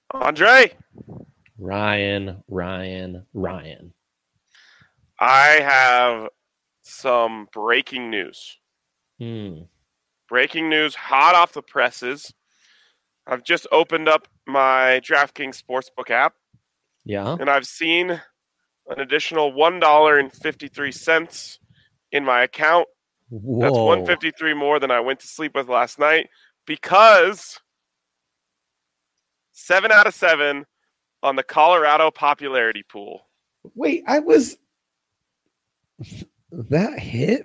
Andre, Ryan. I have some breaking news. Hmm. Breaking news, hot off the presses. I've just opened up my DraftKings Sportsbook app, Yeah. and I've seen an additional $1.53 in my account. That's Whoa. 153 more than I went to sleep with last night because 7 out of 7 on the Colorado popularity pool. Wait, that hit?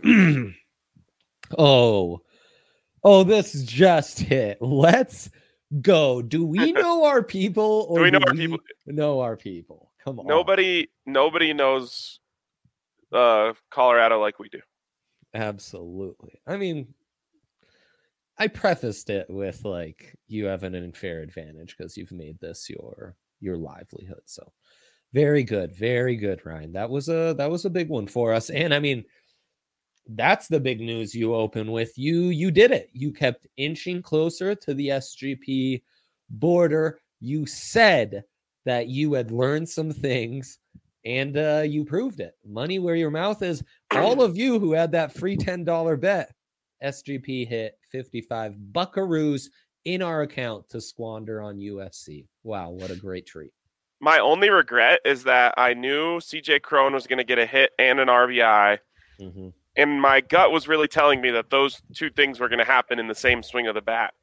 oh. Oh, this just hit. Let's go. Do we know our people Do or we know do our people? we know our people? Come on. Nobody knows Colorado like we do. Absolutely. I mean, I prefaced it with like you have an unfair advantage because you've made this your livelihood. So very good, Ryan. That was a big one for us. And I mean, that's the big news you open with. You did it. You kept inching closer to the SGP border. You said that you had learned some things and you proved it. Money where your mouth is. All of you who had that free $10 bet, SGP hit 55 buckaroos in our account to squander on UFC. Wow, what a great treat. My only regret is that I knew CJ Crone was going to get a hit and an RBI. Mm-hmm. And my gut was really telling me that those two things were going to happen in the same swing of the bat.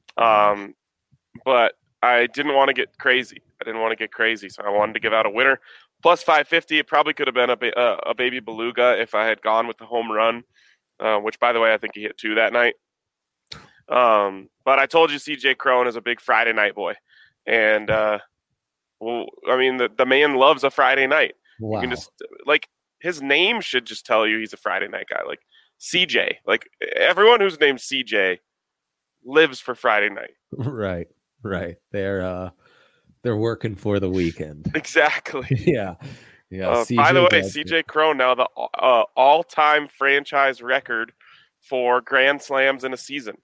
But I didn't want to get crazy. So I wanted to give out a winner. Plus 550, it probably could have been a baby beluga if I had gone with the home run, which, by the way, I think he hit 2 that night. But I told you CJ Crone is a big Friday night boy. And, well, I mean, the man loves a Friday night. Wow. You can just, like, his name should just tell you he's a Friday night guy. Like, CJ. Like, everyone who's named CJ lives for Friday night. Right. They're working for the weekend. Exactly. Yeah. By the way, CJ Crone now the all-time franchise record for grand slams in a season.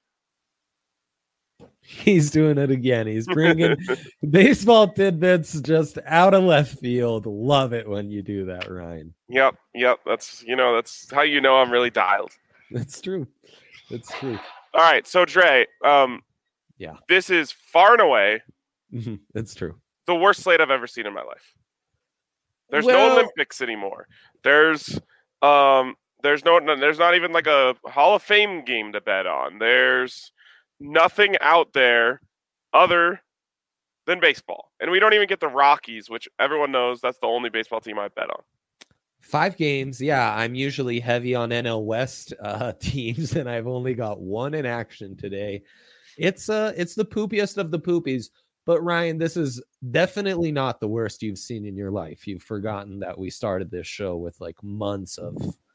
He's doing it again. He's bringing baseball tidbits just out of left field. Love it when you do that, Ryan. Yep. That's how you know I'm really dialed. That's true. All right, so Dre, yeah, this is far and away. It's true. The worst slate I've ever seen in my life. There's no Olympics anymore. There's not even like a Hall of Fame game to bet on. There's nothing out there other than baseball. And we don't even get the Rockies, which everyone knows that's the only baseball team I bet on. 5 games. Yeah, I'm usually heavy on NL West teams, and I've only got one in action today. It's the poopiest of the poopies. But Ryan, this is definitely not the worst you've seen in your life. You've forgotten that we started this show with like months of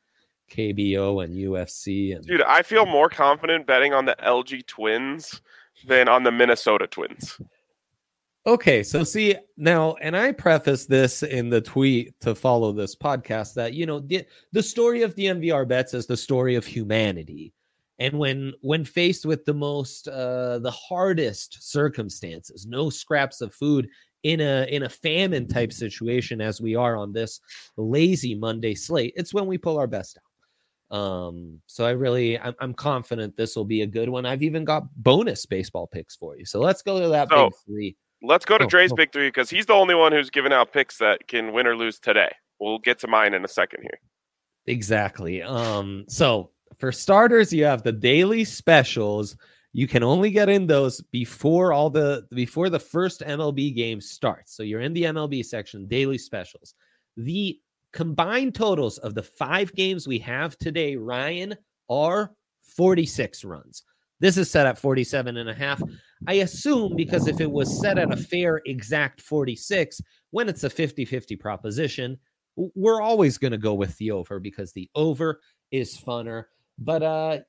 KBO and UFC. Dude, I feel more confident betting on the LG Twins than on the Minnesota Twins. Okay, so see now, and I preface this in the tweet to follow this podcast that, you know, the story of DNVR bets is the story of humanity. And when faced with the hardest circumstances, no scraps of food in a famine type situation as we are on this lazy Monday slate, it's when we pull our best out. So I'm confident this will be a good one. I've even got bonus baseball picks for you. So let's go to that big 3. Let's go to Dre's big 3 because he's the only one who's given out picks that can win or lose today. We'll get to mine in a second here. Exactly. So for starters, you have the daily specials. You can only get in those before the first MLB game starts. So you're in the MLB section, daily specials. The combined totals of the 5 games we have today, Ryan, are 46 runs. This is set at 47.5. I assume because if it was set at a fair exact 46, when it's a 50-50 proposition, we're always going to go with the over because the over is funner. But,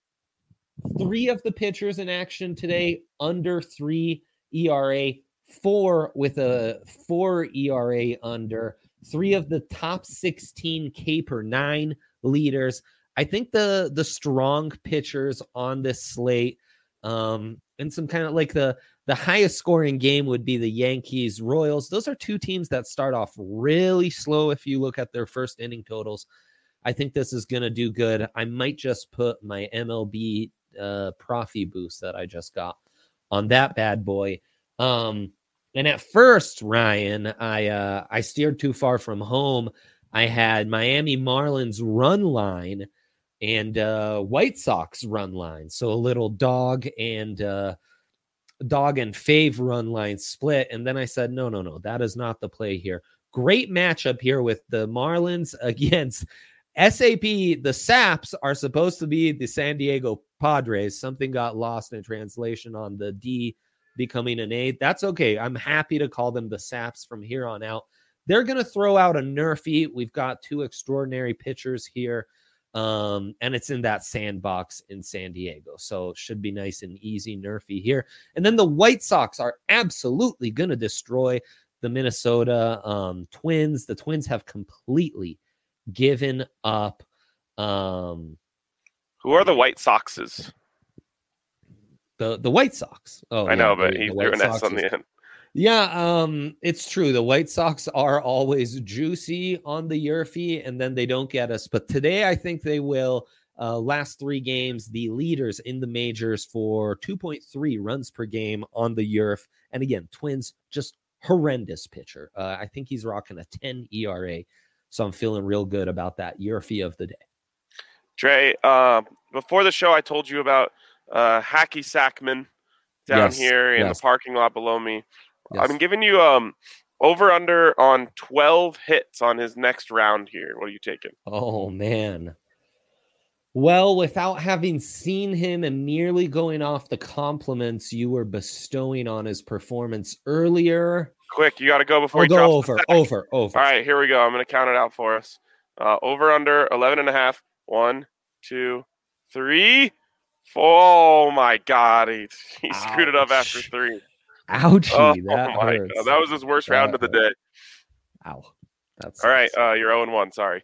3 of the pitchers in action today, under 3 ERA, 4 with a 4 ERA under, 3 of the top 16 K per 9 leaders. I think the strong pitchers on this slate, and some kind of like the The highest scoring game would be the Yankees Royals. Those are two teams that start off really slow. If you look at their first inning totals, I think this is going to do good. I might just put my MLB Profi boost that I just got on that bad boy. And at first, Ryan, I steered too far from home. I had Miami Marlins run line and White Sox run line. So a little dog and fave run line split. And then I said, no, that is not the play here. Great matchup here with the Marlins against SAP. The Saps are supposed to be the San Diego Padres. Something got lost in translation on the D becoming an A. That's okay. I'm happy to call them the Saps from here on out. They're going to throw out a Nerfy. We've got two extraordinary pitchers here. And it's in that sandbox in San Diego. So it should be nice and easy Nerfy here. And then the White Sox are absolutely going to destroy the Minnesota Twins. The Twins have completely given up. Who are the White Soxes? The White Sox. Oh, I know, but he threw an S on the end. Yeah, it's true. The White Sox are always juicy on the Yerfy, and then they don't get us. But today, I think they will. Last three games, the leaders in the majors for 2.3 runs per game on the Yerf. And again, Twins, just horrendous pitcher. I think he's rocking a 10 ERA. So I'm feeling real good about that Yerfy of the day. Dre, before the show, I told you about Hacky Sackman down here in the parking lot below me. Yes. I'm giving you over under on 12 hits on his next round here. What are you taking? Oh, man. Well, without having seen him and merely going off the compliments you were bestowing on his performance earlier. Quick, you got to go before he drops over. All right, here we go. I'm going to count it out for us. Over under 11.5. 1, 2, 3, 4. Oh, my God. He screwed it up after 3. Ouchie, that hurts. God. That was his worst round of the day. Ow. That's all right. You're 0-1. Sorry.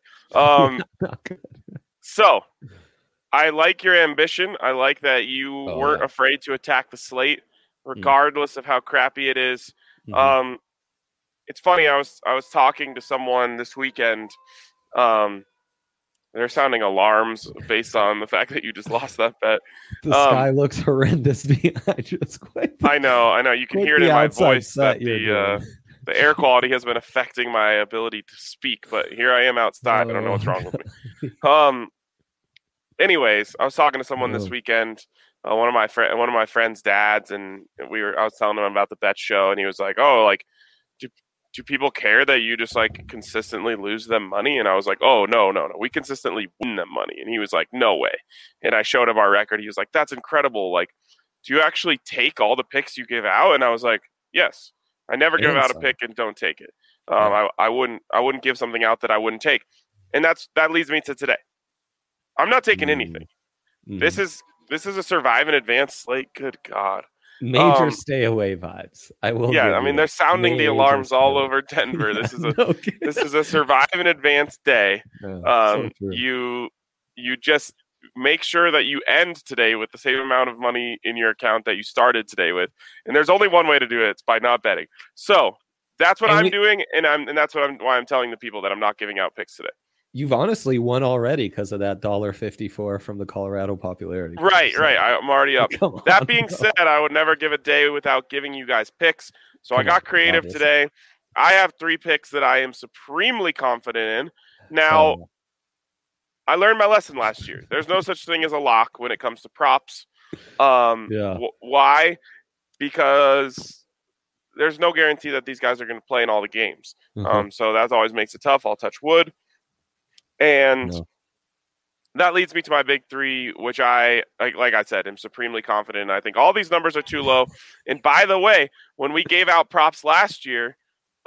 So, I like your ambition. I like that you weren't afraid to attack the slate, regardless of how crappy it is. Mm-hmm. It's funny. I was talking to someone this weekend. They're sounding alarms based on the fact that you just lost that bet. The sky looks horrendous behind you. I know. You can hear it in my voice that the air quality has been affecting my ability to speak. But here I am outside. I don't know what's wrong with me. Anyways, I was talking to someone this weekend. One of my friend's dads, and I was telling him about the bet show, and he was like, "Oh, like, do people care that you just like consistently lose them money?" And I was like, "Oh, no. We consistently win them money." And he was like, "No way." And I showed him our record. He was like, "That's incredible. Like, do you actually take all the picks you give out?" And I was like, "Yes. I never give out a pick and don't take it. I wouldn't give something out that I wouldn't take." And that leads me to today. I'm not taking anything. This is a survive and advance slate. Good God. Major stay away vibes. I will. Yeah, I mean they're sounding the alarms all over Denver. This is this is a survive and advance day. So you just make sure that you end today with the same amount of money in your account that you started today with. And there's only one way to do it. It's by not betting. So that's what I'm doing, and that's why I'm telling the people that I'm not giving out picks today. You've honestly won already because of that $1.54 from the Colorado popularity. Right. I'm already up. That being said, I would never give a day without giving you guys picks. So I got creative today. I have 3 picks that I am supremely confident in. Now, I learned my lesson last year. There's no such thing as a lock when it comes to props. Why? Because there's no guarantee that these guys are going to play in all the games. So that always makes it tough. I'll touch wood. And that leads me to my big 3, which I, like I said, am supremely confident in. I think all these numbers are too low. And by the way, when we gave out props last year,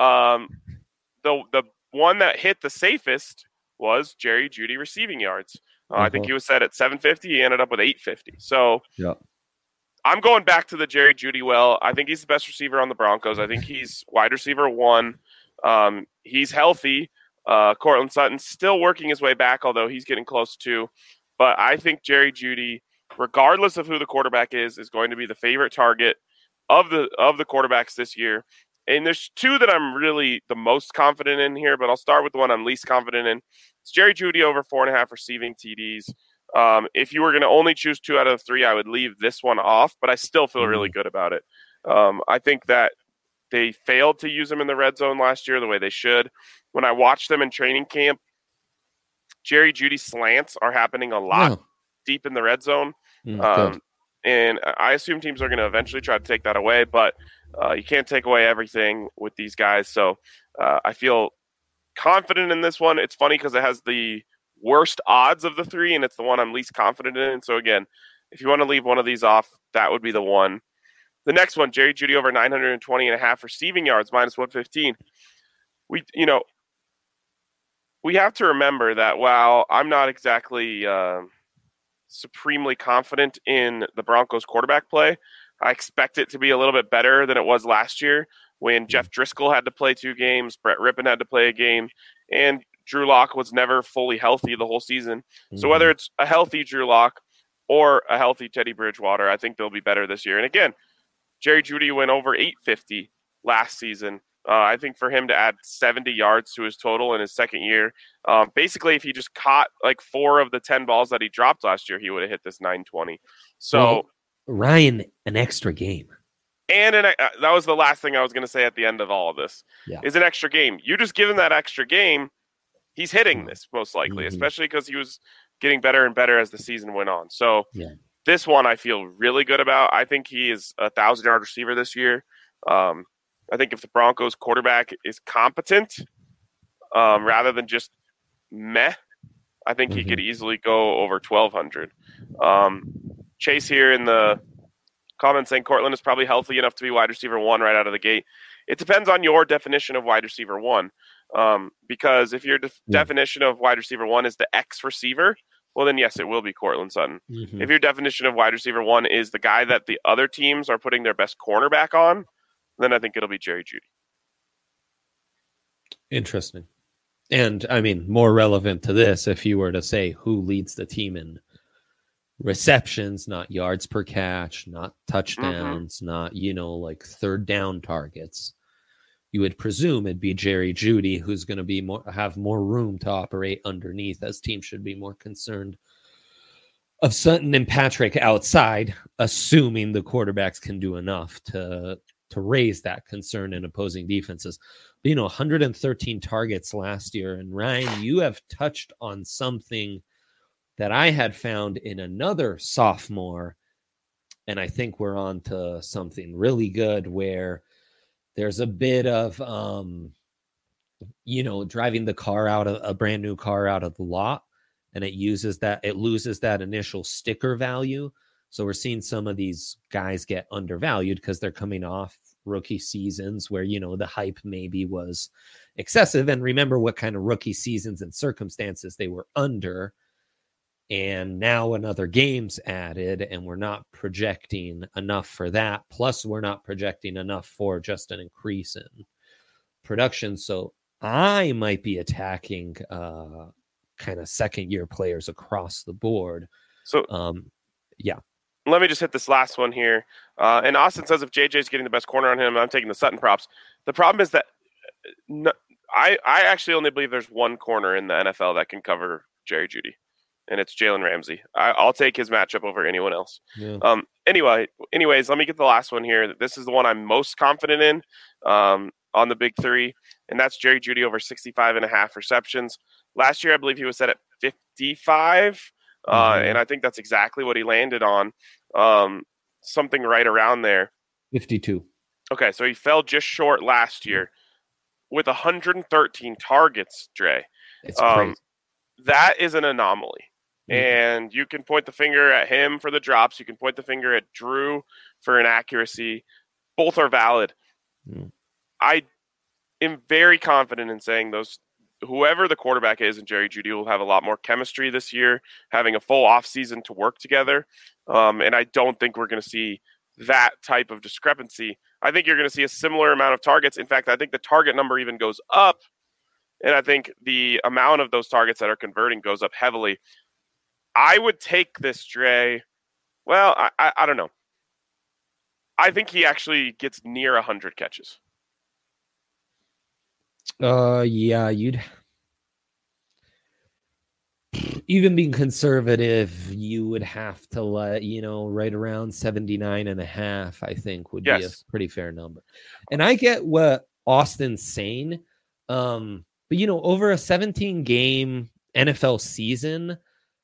the one that hit the safest was Jerry Jeudy receiving yards. I think he was set at 750. He ended up with 850. So I'm going back to the Jerry Jeudy well. I think he's the best receiver on the Broncos. I think he's wide receiver 1. He's healthy. Cortland Sutton's still working his way back, although he's getting close too. But I think Jerry Jeudy, regardless of who the quarterback is going to be the favorite target. of the quarterbacks this year, and there's two that I'm really the most confident in here, but I'll start with the one I'm least confident in. It's Jerry Jeudy over 4.5 receiving TDs. If you were going to only choose 2 out of the 3, I would leave this one off, but I still feel really good about it. I think that they failed to use him in the red zone last year the way they should. When I watched them in training camp, Jerry Jeudy slants are happening a lot deep in the red zone. And I assume teams are going to eventually try to take that away, but you can't take away everything with these guys. So I feel confident in this one. It's funny because it has the worst odds of the 3, and it's the one I'm least confident in. So again, if you want to leave one of these off, that would be the one. The next one, Jerry Jeudy over 920.5 receiving yards, minus 115. We have to remember that while I'm not exactly supremely confident in the Broncos quarterback play, I expect it to be a little bit better than it was last year when Jeff Driscoll had to play 2 games, Brett Rippon had to play a game, and Drew Lock was never fully healthy the whole season. So whether it's a healthy Drew Lock or a healthy Teddy Bridgewater, I think they'll be better this year. And again, Jerry Jeudy went over 850 last season. I think for him to add 70 yards to his total in his second year, basically if he just caught like 4 of the 10 balls that he dropped last year, he would have hit this 920. So Ryan, an extra game. And that was the last thing I was going to say at the end of all of this, is an extra game. You just give him that extra game, he's hitting this most likely, especially because he was getting better and better as the season went on. So this one I feel really good about. I think he is a 1,000-yard receiver this year. I think if the Broncos quarterback is competent rather than just meh, I think he could easily go over 1,200. Chase here in the comments saying Courtland is probably healthy enough to be wide receiver 1 right out of the gate. It depends on your definition of wide receiver 1. Because if your definition of wide receiver 1 is the X receiver, well, then yes, it will be Courtland Sutton. If your definition of wide receiver 1 is the guy that the other teams are putting their best cornerback on, then I think it'll be Jerry Jeudy. Interesting. And, I mean, more relevant to this, if you were to say who leads the team in receptions, not yards per catch, not touchdowns, not, like third down targets, you would presume it'd be Jerry Jeudy, who's going to have more room to operate underneath, as teams should be more concerned of Sutton and Patrick outside, assuming the quarterbacks can do enough to raise that concern in opposing defenses. But, 113 targets last year. And Ryan, you have touched on something that I had found in another sophomore. And I think we're on to something really good where there's a bit of, driving the car out of a brand new car out of the lot. And it loses that initial sticker value. So we're seeing some of these guys get undervalued because they're coming off rookie seasons where, the hype maybe was excessive. And remember what kind of rookie seasons and circumstances they were under. And now another game's added, and we're not projecting enough for that. Plus, we're not projecting enough for just an increase in production. So I might be attacking kind of second-year players across the board. So, let me just hit this last one here. And Austin says if JJ's getting the best corner on him, I'm taking the Sutton props. The problem is that I actually only believe there's one corner in the NFL that can cover Jerry Jeudy, and it's Jalen Ramsey. I'll take his matchup over anyone else. Yeah. Anyways, let me get the last one here. This is the one I'm most confident in on the big 3, and that's Jerry Jeudy over 65.5 receptions. Last year, I believe he was set at 55. And I think that's exactly what he landed on, something right around there. 52. Okay, so he fell just short last year with 113 targets, Dre. It's crazy. That is an anomaly. And you can point the finger at him for the drops. You can point the finger at Drew for inaccuracy. Both are valid. I am very confident in saying whoever the quarterback is, and Jerry Jeudy will have a lot more chemistry this year, having a full offseason to work together. And I don't think we're going to see that type of discrepancy. I think you're going to see a similar amount of targets. In fact, I think the target number even goes up. And I think the amount of those targets that are converting goes up heavily. I would take this, Dre. Well, I don't know. I think he actually gets near 100 catches. Yeah, you'd even being conservative, you would have to let, right around 79.5, I think would be a Yes. pretty fair number. And I get what Austin's saying. But over a 17 game NFL season,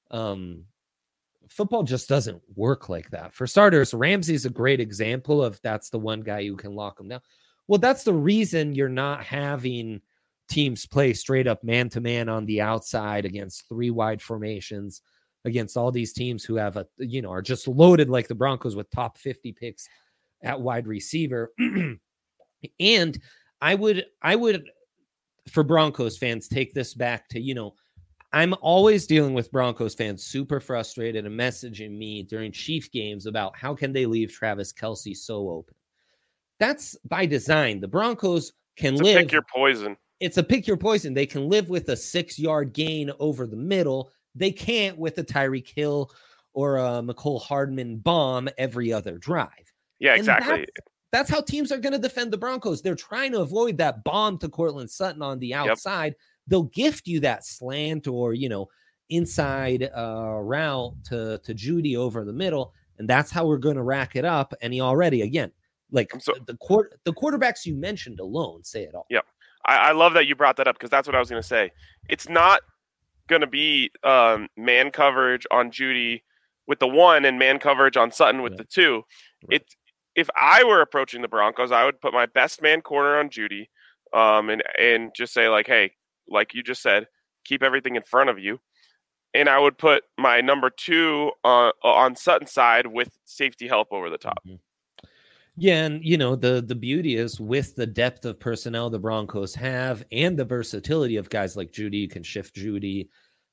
football just doesn't work like that. For starters, Ramsey's a great example of that's the one guy who can lock him down. Well, that's the reason you're not having teams play straight up man to man on the outside against 3 wide formations against all these teams who have are just loaded like the Broncos with top 50 picks at wide receiver. And I would for Broncos fans take this back to, I'm always dealing with Broncos fans super frustrated and messaging me during Chief games about how can they leave Travis Kelce so open. That's by design. The Broncos can live. Pick your poison. It's a pick your poison. They can live with a 6-yard gain over the middle. They can't with a Tyreek Hill or a McCole Hardman bomb every other drive. Yeah, exactly. That's how teams are going to defend the Broncos. They're trying to avoid that bomb to Courtland Sutton on the outside. Yep. They'll gift you that slant or, inside route to Jeudy over the middle. And that's how we're going to rack it up. And he already, again, the quarterbacks you mentioned alone say it all. Yep. I love that you brought that up because that's what I was going to say. It's not going to be man coverage on Jeudy with the 1 and man coverage on Sutton with the 2. Right. If I were approaching the Broncos, I would put my best man corner on Jeudy and just say, like, hey, like you just said, keep everything in front of you. And I would put my number 2 on Sutton's side with safety help over the top. Mm-hmm. Yeah, and the beauty is with the depth of personnel the Broncos have and the versatility of guys like Jeudy, you can shift Jeudy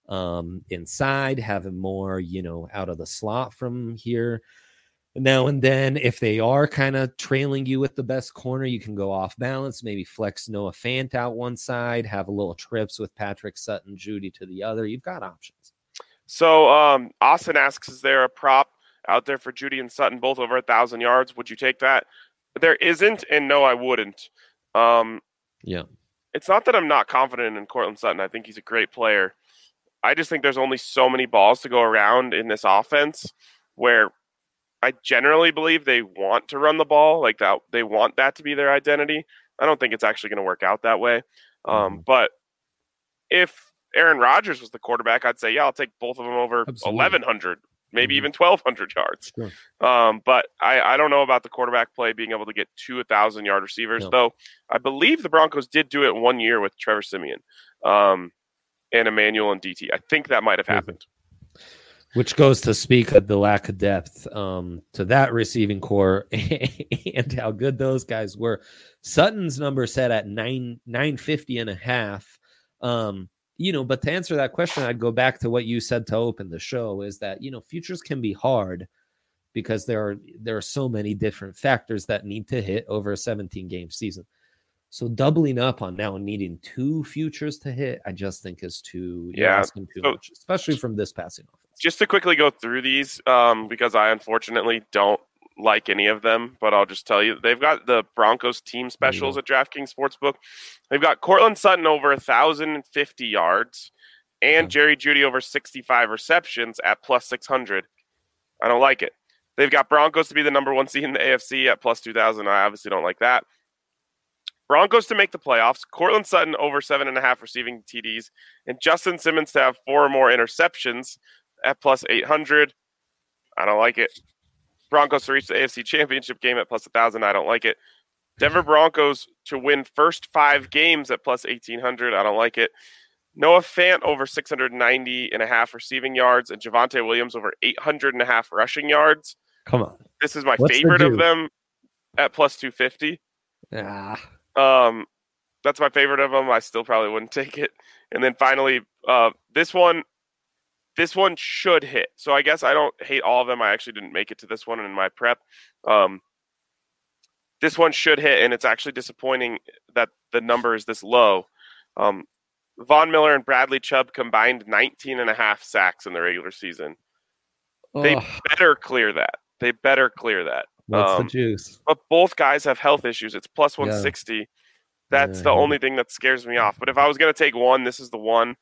inside, have him more, out of the slot from here now and then. If they are kind of trailing you with the best corner, you can go off balance, maybe flex Noah Fant out one side, have a little trips with Patrick Sutton, Jeudy to the other. You've got options. So Austin asks, is there a prop out there for Jeudy and Sutton, both over 1,000 yards? Would you take that? There isn't, and no, I wouldn't. Yeah. It's not that I'm not confident in Courtland Sutton. I think he's a great player. I just think there's only so many balls to go around in this offense where I generally believe they want to run the ball, like that. They want that to be their identity. I don't think it's actually going to work out that way. But if Aaron Rodgers was the quarterback, I'd say, yeah, I'll take both of them over 1,100. Maybe even 1,200 yards. Sure. But I don't know about the quarterback play being able to get 2 1,000-yard receivers, though I believe the Broncos did do it 1 year with Trevor Siemian and Emmanuel and DT. I think that might have happened. Which goes to speak of the lack of depth to that receiving core and how good those guys were. Sutton's number set at 950.5. But to answer that question, I'd go back to what you said to open the show is that, futures can be hard because there are so many different factors that need to hit over a 17-game season. So doubling up on now needing 2 futures to hit, I just think is asking too much, especially from this passing offense. Just to quickly go through these, because I unfortunately don't like any of them, but I'll just tell you, they've got the Broncos team specials at DraftKings Sportsbook. They've got Courtland Sutton over 1,050 yards and Jerry Jeudy over 65 receptions at plus 600. I don't like it. They've got Broncos to be the number 1 seed in the AFC at plus 2,000. I obviously don't like that. Broncos to make the playoffs, Courtland Sutton over 7.5 receiving TDs, and Justin Simmons to have 4 or more interceptions at plus 800. I don't like it. Broncos to reach the AFC Championship game at plus 1,000. I don't like it. Denver Broncos to win first 5 games at plus 1,800. I don't like it. Noah Fant over 690.5 receiving yards and Javonte Williams over 800.5 rushing yards. Come on. This is my favorite of them at plus 250. That's my favorite of them. I still probably wouldn't take it. And then finally, this one should hit. So I guess I don't hate all of them. I actually didn't make it to this one in my prep. This one should hit, and it's actually disappointing that the number is this low. Von Miller and Bradley Chubb combined 19.5 sacks in the regular season. They better clear that. What's the juice? But both guys have health issues. It's plus Yeah. 160. That's Yeah, the only thing that scares me off. But if I was going to take one, this is the one.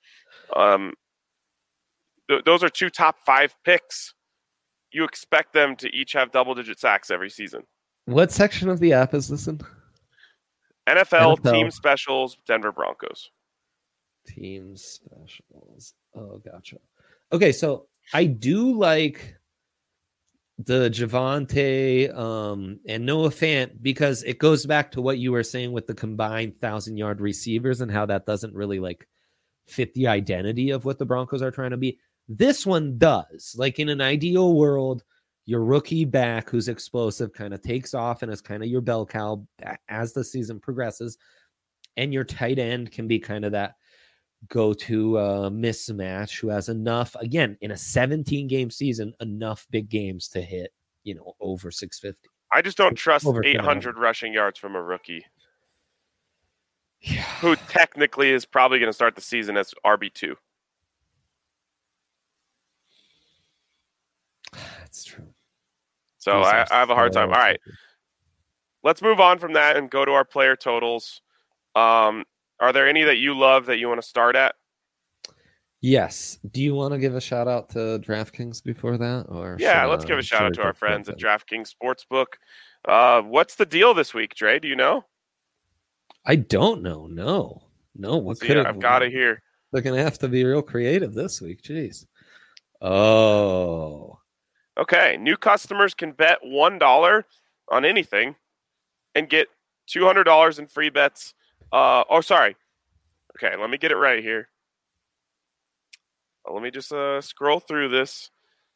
Those are 2 top 5 picks. You expect them to each have double-digit sacks every season. What section of the app is this in? NFL team specials, Denver Broncos. Team specials. Oh, gotcha. Okay, so I do like the Javonte and Noah Fant because it goes back to what you were saying with the combined 1,000-yard receivers and how that doesn't really like fit the identity of what the Broncos are trying to be. This one does. Like in an ideal world, your rookie back who's explosive kind of takes off and is kind of your bell cow as the season progresses. And your tight end can be kind of that go-to mismatch who has enough, again, in a 17-game season, enough big games to hit, over 650. I just don't trust 800 rushing yards from a rookie. Yeah. Who technically is probably going to start the season as RB2. That's true. So I have a hard time. All right. Let's move on from that and go to our player totals. Are there any that you love that you want to start at? Yes. Do you want to give a shout out to DraftKings before that? Or yeah, let's give a shout out to our friends at DraftKings Sportsbook. What's the deal this week, Dre? Do you know? I don't know. No. What could I've got it here. They're going to have to be real creative this week. Jeez. Oh. Okay. New customers can bet $1 on anything and get $200 in free bets. Sorry. Okay, let me get it right here. Let me just scroll through this.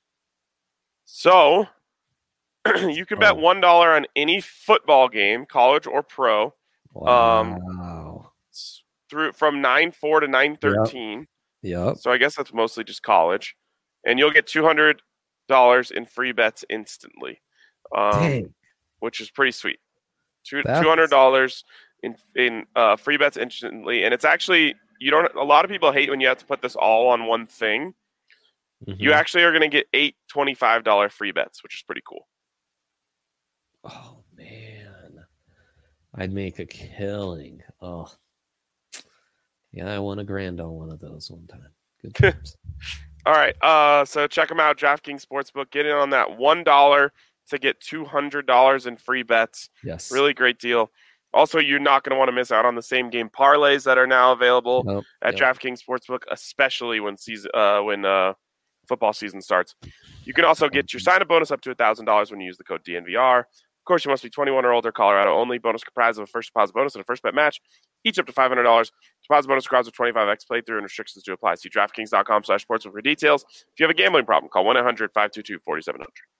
So, you can bet $1 on any football game, college or pro. Wow. From 9-4 to 9-13. Yep. So I guess that's mostly just college. And you'll get $200 in free bets instantly. Which is pretty sweet. $200 in free bets instantly. And it's actually, a lot of people hate when you have to put this all on one thing. Mm-hmm. You actually are going to get 8 $25 free bets, which is pretty cool. Oh, man. I'd make a killing. Oh. Yeah, I won $1,000 on one of those one time. Good times. All right. So check them out, DraftKings Sportsbook. Get in on that $1 to get $200 in free bets. Yes. Really great deal. Also, you're not going to want to miss out on the same game parlays that are now available at DraftKings Sportsbook, especially when football season starts. You can also get your sign-up bonus up to $1,000 when you use the code DNVR. Of course, you must be 21 or older, Colorado only. Bonus comprised of a first deposit bonus and a first bet match, each up to $500. Deposit bonus requires a 25x playthrough and restrictions to apply. See DraftKings.com/sportsbook for details. If you have a gambling problem, call 1-800-522-4700.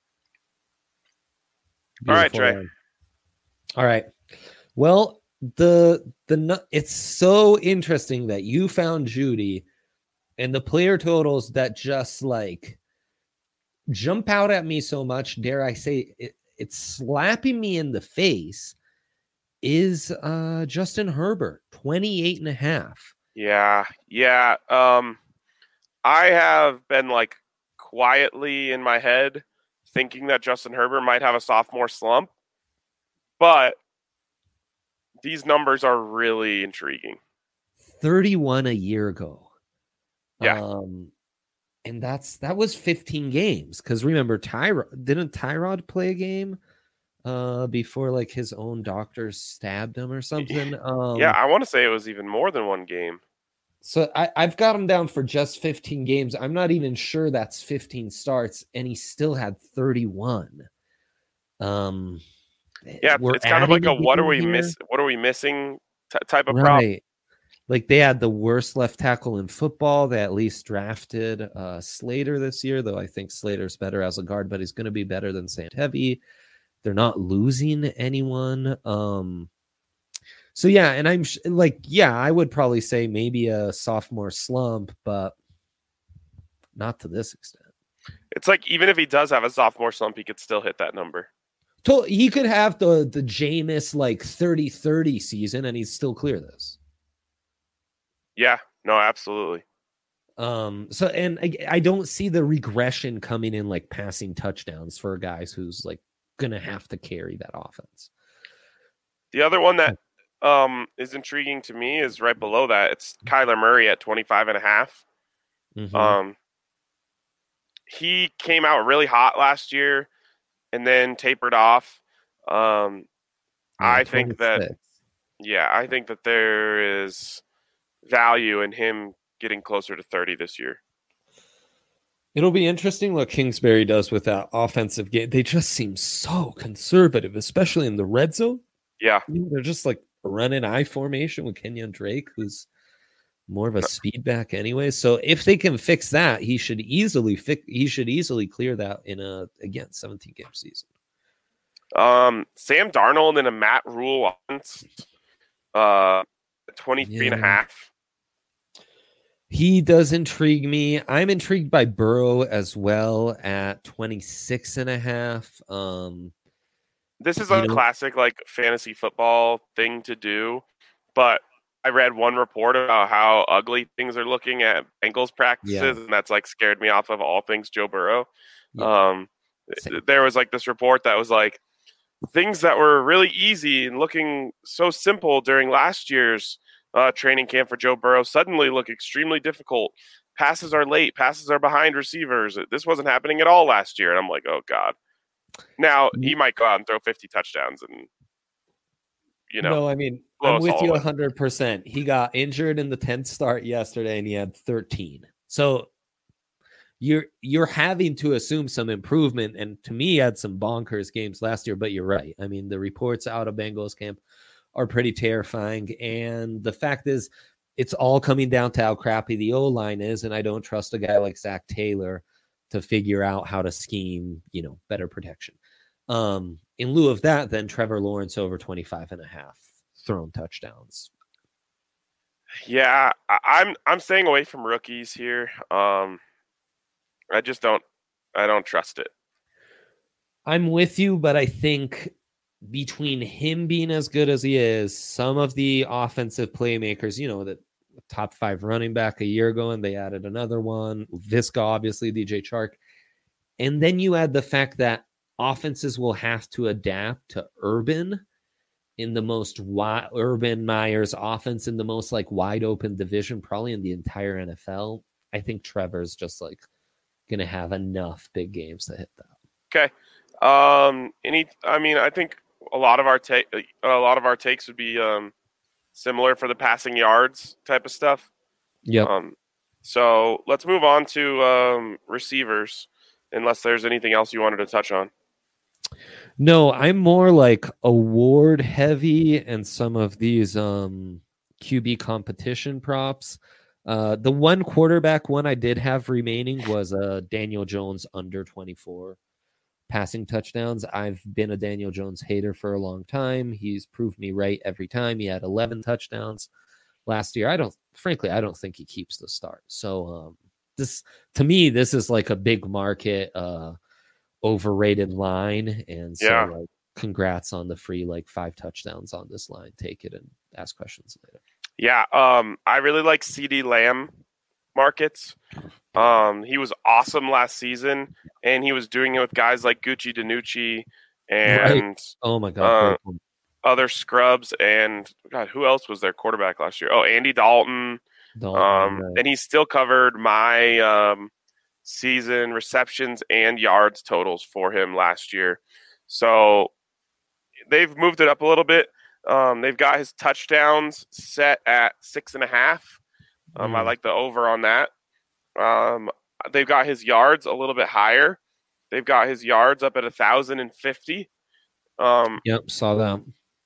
All right, Trey. All right. Well, it's so interesting that you found Judy and the player totals that just like jump out at me so much. Dare I say it's slapping me in the face is Justin Herbert, 28.5. Yeah. I have been like quietly in my head thinking that Justin Herbert might have a sophomore slump, but these numbers are really intriguing. 31 a year ago. Yeah. And that was 15 games. Because remember, didn't Tyrod play a game before like his own doctors stabbed him or something? Yeah, I want to say it was even more than one game. So I've got him down for just 15 games. I'm not even sure that's 15 starts, and he still had 31. Yeah, it's kind of like a what are we missing type of problem. Like they had the worst left tackle in football. They at least drafted Slater this year, though I think Slater's better as a guard, but he's going to be better than Santevi. They're not losing anyone. So yeah, and I'm I would probably say maybe a sophomore slump, but not to this extent. It's like even if he does have a sophomore slump, he could still hit that number. He could have the Jameis like 30-30 season, and he'd still clear this. Yeah, no, absolutely. So, and I don't see the regression coming in like passing touchdowns for guys who's like gonna have to carry that offense. The other one that is intriguing to me is right below that. It's Kyler Murray at 25.5. Mm-hmm. He came out really hot last year and then tapered off. I think that, 26. I think that there is value in him getting closer to 30 this year. It'll be interesting what Kingsbury does with that offensive game. They just seem so conservative, especially in the red zone. Yeah. They're just like running I formation with Kenyon Drake, who's more of a speed back anyway. So if they can fix that, he should easily clear that in a 17 game season. Sam Darnold in a Matt Rule offense, 23.5. He does intrigue me. I'm intrigued by Burrow as well at 26.5. This is a classic like fantasy football thing to do, but I read one report about how ugly things are looking at Bengals practices, and that's like scared me off of all things Joe Burrow. Yeah. There was like this report that was like things that were really easy and looking so simple during last year's training camp for Joe Burrow suddenly look extremely difficult. Passes are late. Passes are behind receivers. This wasn't happening at all last year. And I'm like, oh, God. Now, he might go out and throw 50 touchdowns and, No, I mean, I'm with you 100%. He got injured in the 10th start yesterday, and he had 13. So you're having to assume some improvement. And to me, he had some bonkers games last year, but you're right. I mean, the reports out of Bengals camp are pretty terrifying. And the fact is, it's all coming down to how crappy the O-line is. And I don't trust a guy like Zach Taylor to figure out how to scheme, better protection. In lieu of that, then Trevor Lawrence over 25.5 thrown touchdowns. Yeah, I'm staying away from rookies here. I don't trust it. I'm with you, but I think between him being as good as he is, some of the offensive playmakers, the top 5 running back a year ago, and they added another one, Visca, obviously, DJ Chark. And then you add the fact that offenses will have to adapt to Urban in the most Urban Meyer's offense in the most like wide open division, probably in the entire NFL. I think Trevor's just like going to have enough big games to hit that. Okay. I think a lot of our takes would be similar for the passing yards type of stuff. Yeah. So let's move on to receivers, unless there's anything else you wanted to touch on. No, I'm more like award heavy and some of these QB competition props. The one quarterback one I did have remaining was Daniel Jones under 24 passing touchdowns. I've been a Daniel Jones hater for a long time. He's proved me right every time. He had 11 touchdowns last year. I don't think he keeps the start. So this is like a big market overrated line, and so like congrats on the free 5 touchdowns on this line. Take it and ask questions later. Yeah, I really like CeeDee Lamb markets. He was awesome last season, and he was doing it with guys like Gucci DiNucci and oh my god, other scrubs, and God, who else was their quarterback last year? Oh, Andy Dalton. And he still covered my season receptions and yards totals for him last year. So they've moved it up a little bit. They've got his touchdowns set at 6.5. I like the over on that. They've got his yards a little bit higher. They've got his yards up at 1,050. Yep, saw that.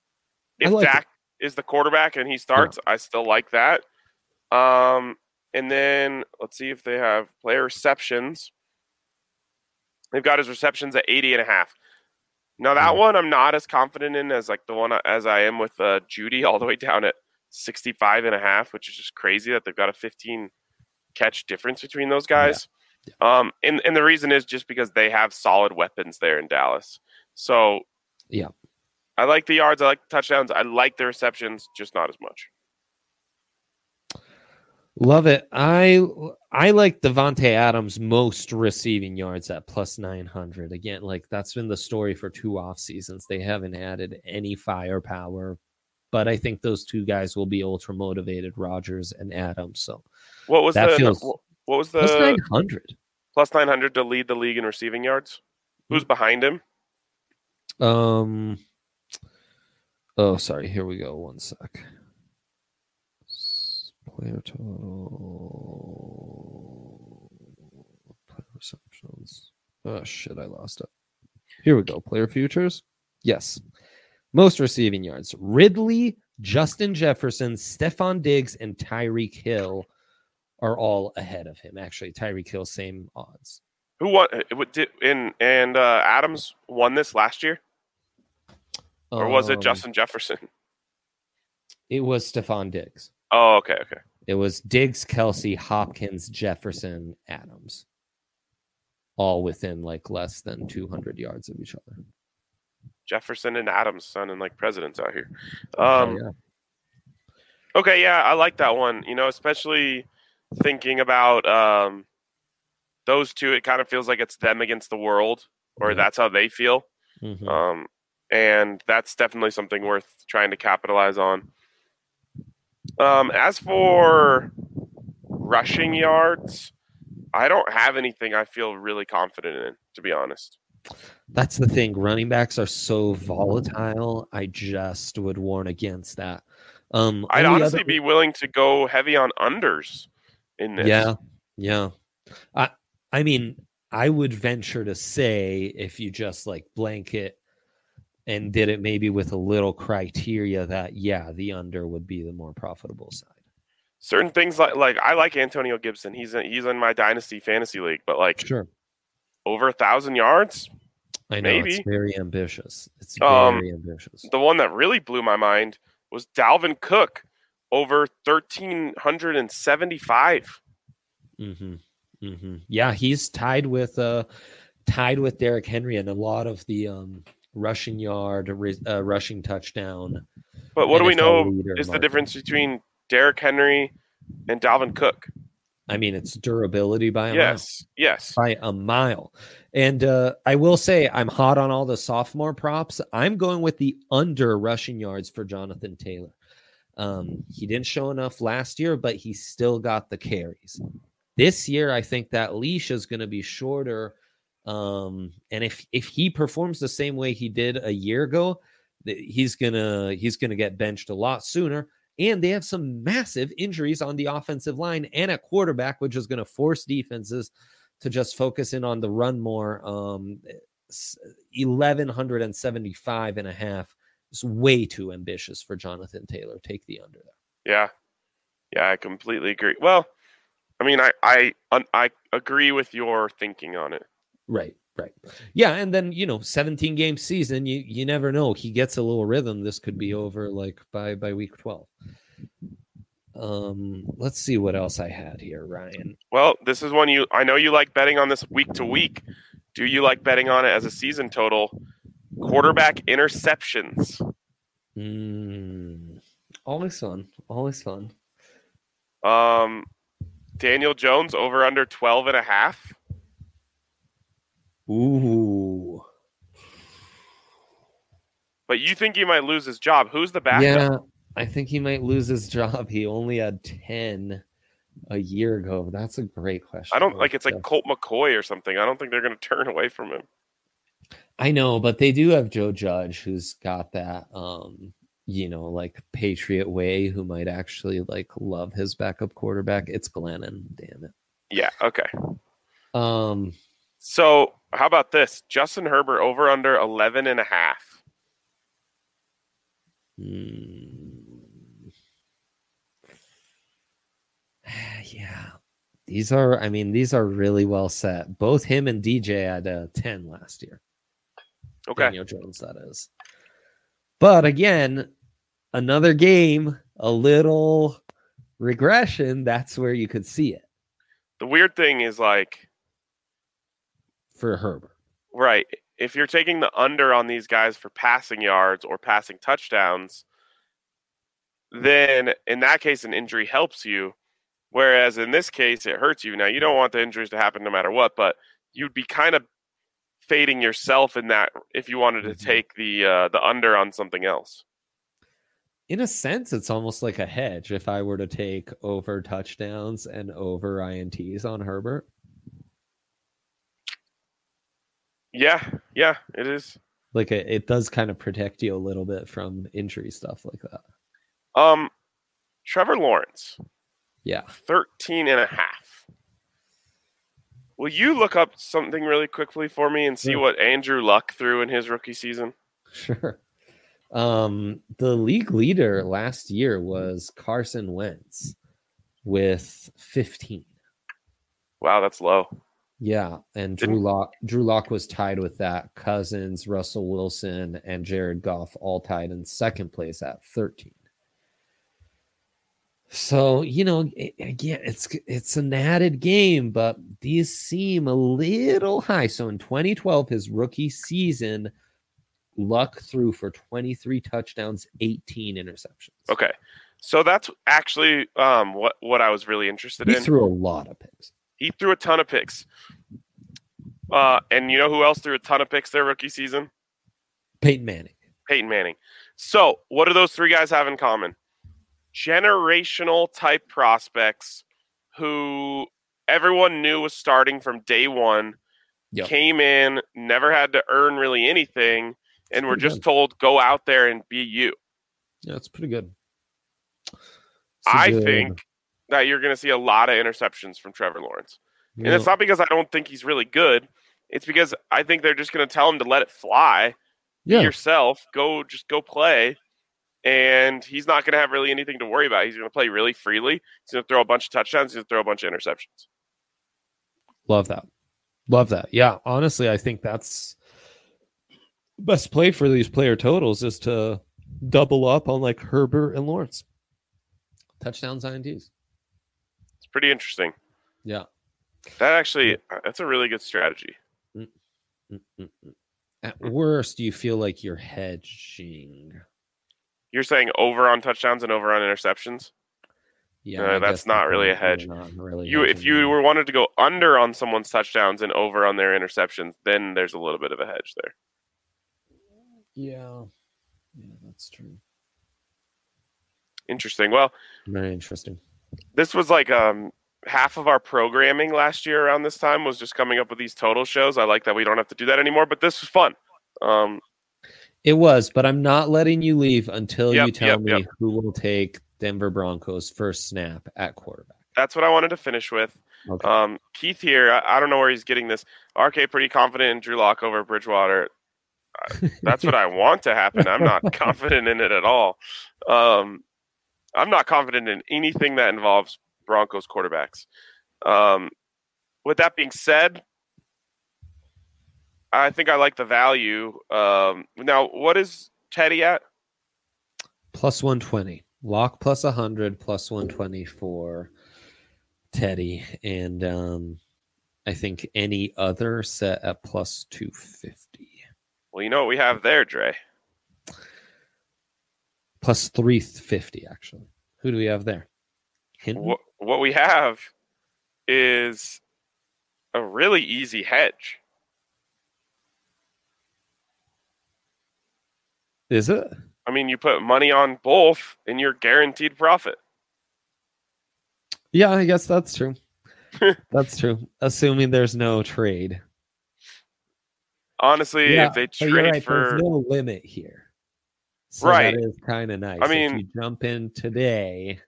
If Dak is the quarterback and he starts, I still like that. And then let's see if they have player receptions. They've got his receptions at 80.5. Now that one I'm not as confident in as like the one as I am with Judy, all the way down at 65.5, which is just crazy that they've got a 15 catch difference between those guys. Yeah. And the reason is just because they have solid weapons there in Dallas. So yeah, I like the yards, I like the touchdowns, I like the receptions, just not as much. Love it. I like Devontae Adams most receiving yards at plus 900. Again, like that's been the story for 2 off seasons. They haven't added any firepower, but I think those two guys will be ultra motivated, Rodgers and Adams. So What was that the feels what was plus the 900. plus 900 to lead the league in receiving yards? Who's behind him? Oh, sorry. Here we go. One sec. Player total. Player receptions. Oh shit! I lost it. Here we go. Player futures. Yes. Most receiving yards. Ridley, Justin Jefferson, Stephon Diggs, and Tyreek Hill are all ahead of him. Actually, Tyreek Hill, same odds. Who won? Adams won this last year, or was it Justin Jefferson? It was Stephon Diggs. Oh, okay. It was Diggs, Kelsey, Hopkins, Jefferson, Adams, all within like less than 200 yards of each other. Jefferson and Adams sounding like presidents out here. Yeah. Okay, yeah, I like that one. Especially thinking about those two, it kind of feels like it's them against the world, or that's how they feel. Mm-hmm. And that's definitely something worth trying to capitalize on. As for rushing yards, I don't have anything I feel really confident in, to be honest. That's the thing. Running backs are so volatile. I just would warn against that. I'd honestly be willing to go heavy on unders in this. Yeah. I mean, I would venture to say if you just like blanket and did it maybe with a little criteria that, the under would be the more profitable side. Certain things like I like Antonio Gibson. He's in my dynasty fantasy league, but sure, over 1,000 yards. I know maybe. It's very ambitious. It's very ambitious. The one that really blew my mind was Dalvin Cook over 1,375. Yeah, he's tied with Derrick Henry and a lot of the rushing yard, rushing touchdown. But what do we know is the difference between Derrick Henry and Dalvin Cook? I mean, it's durability by a mile. Yes. By a mile. And I will say I'm hot on all the sophomore props. I'm going with the under rushing yards for Jonathan Taylor. He didn't show enough last year, but he still got the carries. This year, I think that leash is going to be shorter. And if he performs the same way he did a year ago, he's gonna get benched a lot sooner. And they have some massive injuries on the offensive line and at quarterback, which is going to force defenses to just focus in on the run more. 1,175.5 is way too ambitious for Jonathan Taylor. Take the under there. Yeah, I completely agree. Well, I mean, I agree with your thinking on it. Right. Yeah, and then 17 game season, you never know. He gets a little rhythm. This could be over like by week 12. Let's see what else I had here, Ryan. Well, this is one I know you like betting on this week to week. Do you like betting on it as a season total? Quarterback interceptions. Always fun. Daniel Jones over under 12.5. Ooh. But you think he might lose his job? Who's the backup? Yeah, I think he might lose his job. He only had 10 a year ago. That's a great question. I don't it's like Colt McCoy or something. I don't think they're going to turn away from him. I know, but they do have Joe Judge, who's got that, like Patriot way, who might actually like love his backup quarterback. It's Glennon, damn it. Yeah. Okay. So how about this? Justin Herbert over under 11.5. Yeah. These are really well set. Both him and DJ had 10 last year. Okay. Daniel Jones, that is. But again, another game, a little regression. That's where you could see it. The weird thing is for Herbert. Right. If you're taking the under on these guys for passing yards or passing touchdowns, then in that case, an injury helps you. Whereas in this case, it hurts you. Now, you don't want the injuries to happen no matter what, but you'd be kind of fading yourself in that if you wanted to take the under on something else. In a sense, it's almost like a hedge if I were to take over touchdowns and over INTs on Herbert. Yeah, it is. Like it does kind of protect you a little bit from injury stuff like that. Trevor Lawrence. Yeah. 13.5. Will you look up something really quickly for me and see what Andrew Luck threw in his rookie season? Sure. The league leader last year was Carson Wentz with 15. Wow, that's low. Yeah, and Drew Lock was tied with that. Cousins, Russell Wilson, and Jared Goff all tied in second place at 13. So, again, it's an added game, but these seem a little high. So in 2012, his rookie season, Luck threw for 23 touchdowns, 18 interceptions. Okay. So that's actually what I was really interested in. He threw a lot of picks. He threw a ton of picks. And you know who else threw a ton of picks their rookie season? Peyton Manning. So what do those three guys have in common? Generational type prospects who everyone knew was starting from day one, came in, never had to earn really anything, and were just told, go out there and be you. Yeah, that's pretty good. I think that you're going to see a lot of interceptions from Trevor Lawrence. And it's not because I don't think he's really good. It's because I think they're just going to tell him to let it fly. Be yourself. Go play. And he's not going to have really anything to worry about. He's going to play really freely. He's going to throw a bunch of touchdowns. He's going to throw a bunch of interceptions. Love that. Yeah, honestly, I think that's the best play for these player totals is to double up on like Herbert and Lawrence. Touchdowns, INTs. It's pretty interesting. Yeah. That's a really good strategy. At worst, you feel like you're hedging. You're saying over on touchdowns and over on interceptions? Yeah, that's not really a hedge. Really if you were wanted to go under on someone's touchdowns and over on their interceptions, then there's a little bit of a hedge there. Yeah, that's true. Interesting. Well, very interesting. This was like half of our programming last year around this time was just coming up with these total shows. I like that we don't have to do that anymore, but this was fun. It was, but I'm not letting you leave until you tell me who will take Denver Broncos first snap at quarterback. That's what I wanted to finish with. Okay. Keith here, I don't know where he's getting this. RK pretty confident in Drew Lock over Bridgewater. That's what I want to happen. I'm not confident in it at all. I'm not confident in anything that involves Broncos quarterbacks. With that being said, I think I like the value. Now, what is Teddy at? Plus 120. Lock plus 100, plus 120 for Teddy. And I think any other set at plus 250. Well, you know what we have there, Dre? Plus 350, actually. Who do we have there? What we have is a really easy hedge. Is it? I mean, you put money on both and you're guaranteed profit. Yeah, I guess that's true. That's true. Assuming there's no trade. Honestly, if they trade there's no limit here. So right. That is kind of nice. I mean, if you jump in today.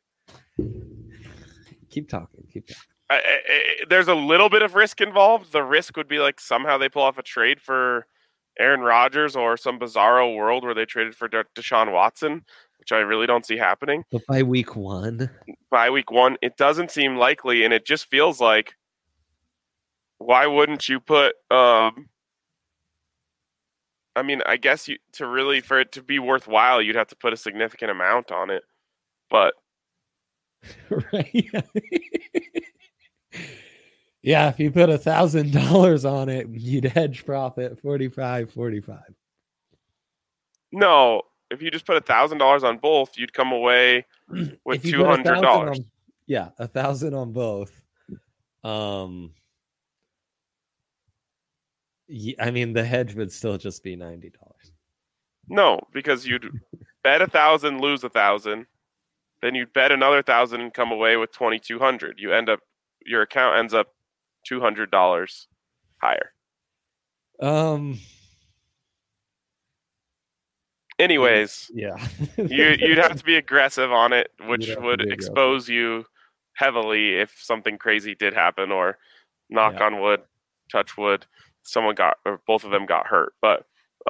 Keep talking. There's a little bit of risk involved. The risk would be like somehow they pull off a trade for Aaron Rodgers or some bizarro world where they traded for Deshaun Watson, which I really don't see happening. But by week one, it doesn't seem likely, and it just feels like, why wouldn't you put? I mean, I guess for it to be worthwhile, you'd have to put a significant amount on it, but right. Yeah, if you put $1,000 on it, you'd hedge profit 45. No, if you just put $1,000 on both, you'd come away with $200. Yeah, 1,000 on both. I mean, the hedge would still just be $90. No, because you'd bet 1,000, lose 1,000, then you'd bet another 1,000 and come away with 2,200. Your account ends up $200 higher. Anyways, yeah, you'd have to be aggressive on it, which would expose you heavily if something crazy did happen, or knock on wood, touch wood, someone got, or both of them got hurt. But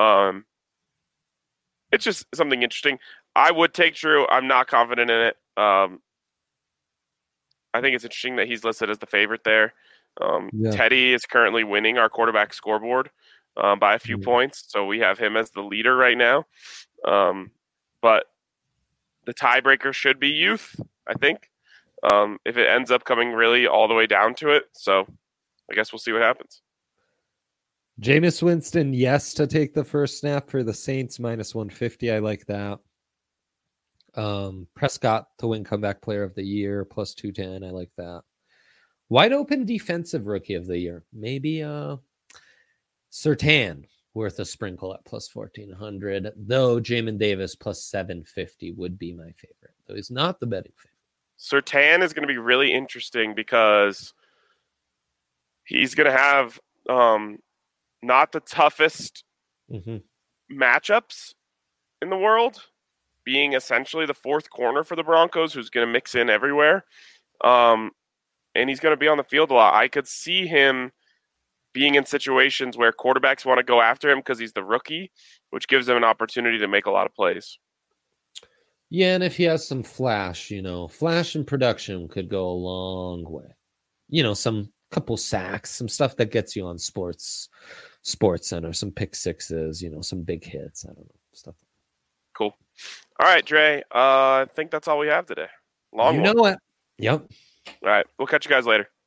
it's just something interesting. I would take Drew. I'm not confident in it. I think it's interesting that he's listed as the favorite there. Teddy is currently winning our quarterback scoreboard by a few points, so we have him as the leader right now. But the tiebreaker should be youth, I think, if it ends up coming really all the way down to it. So I guess we'll see what happens. Jameis Winston, yes, to take the first snap for the Saints, -150. I like that. Prescott to win comeback player of the year, +210. I like that. Wide open defensive rookie of the year. Maybe Surtain worth a sprinkle at +1,400. Though Jamin Davis +750 would be my favorite. Though he's not the betting favorite. Surtain is going to be really interesting because he's going to have not the toughest matchups in the world, being essentially the fourth corner for the Broncos, who's going to mix in everywhere. And he's going to be on the field a lot. I could see him being in situations where quarterbacks want to go after him because he's the rookie, which gives him an opportunity to make a lot of plays. Yeah, and if he has some flash, flash in production could go a long way. Some couple sacks, some stuff that gets you on Sports Center, some pick sixes, some big hits. I don't know, stuff. Cool. All right, Dre. I think that's all we have today. Long one. Know it. Yep. All right. We'll catch you guys later.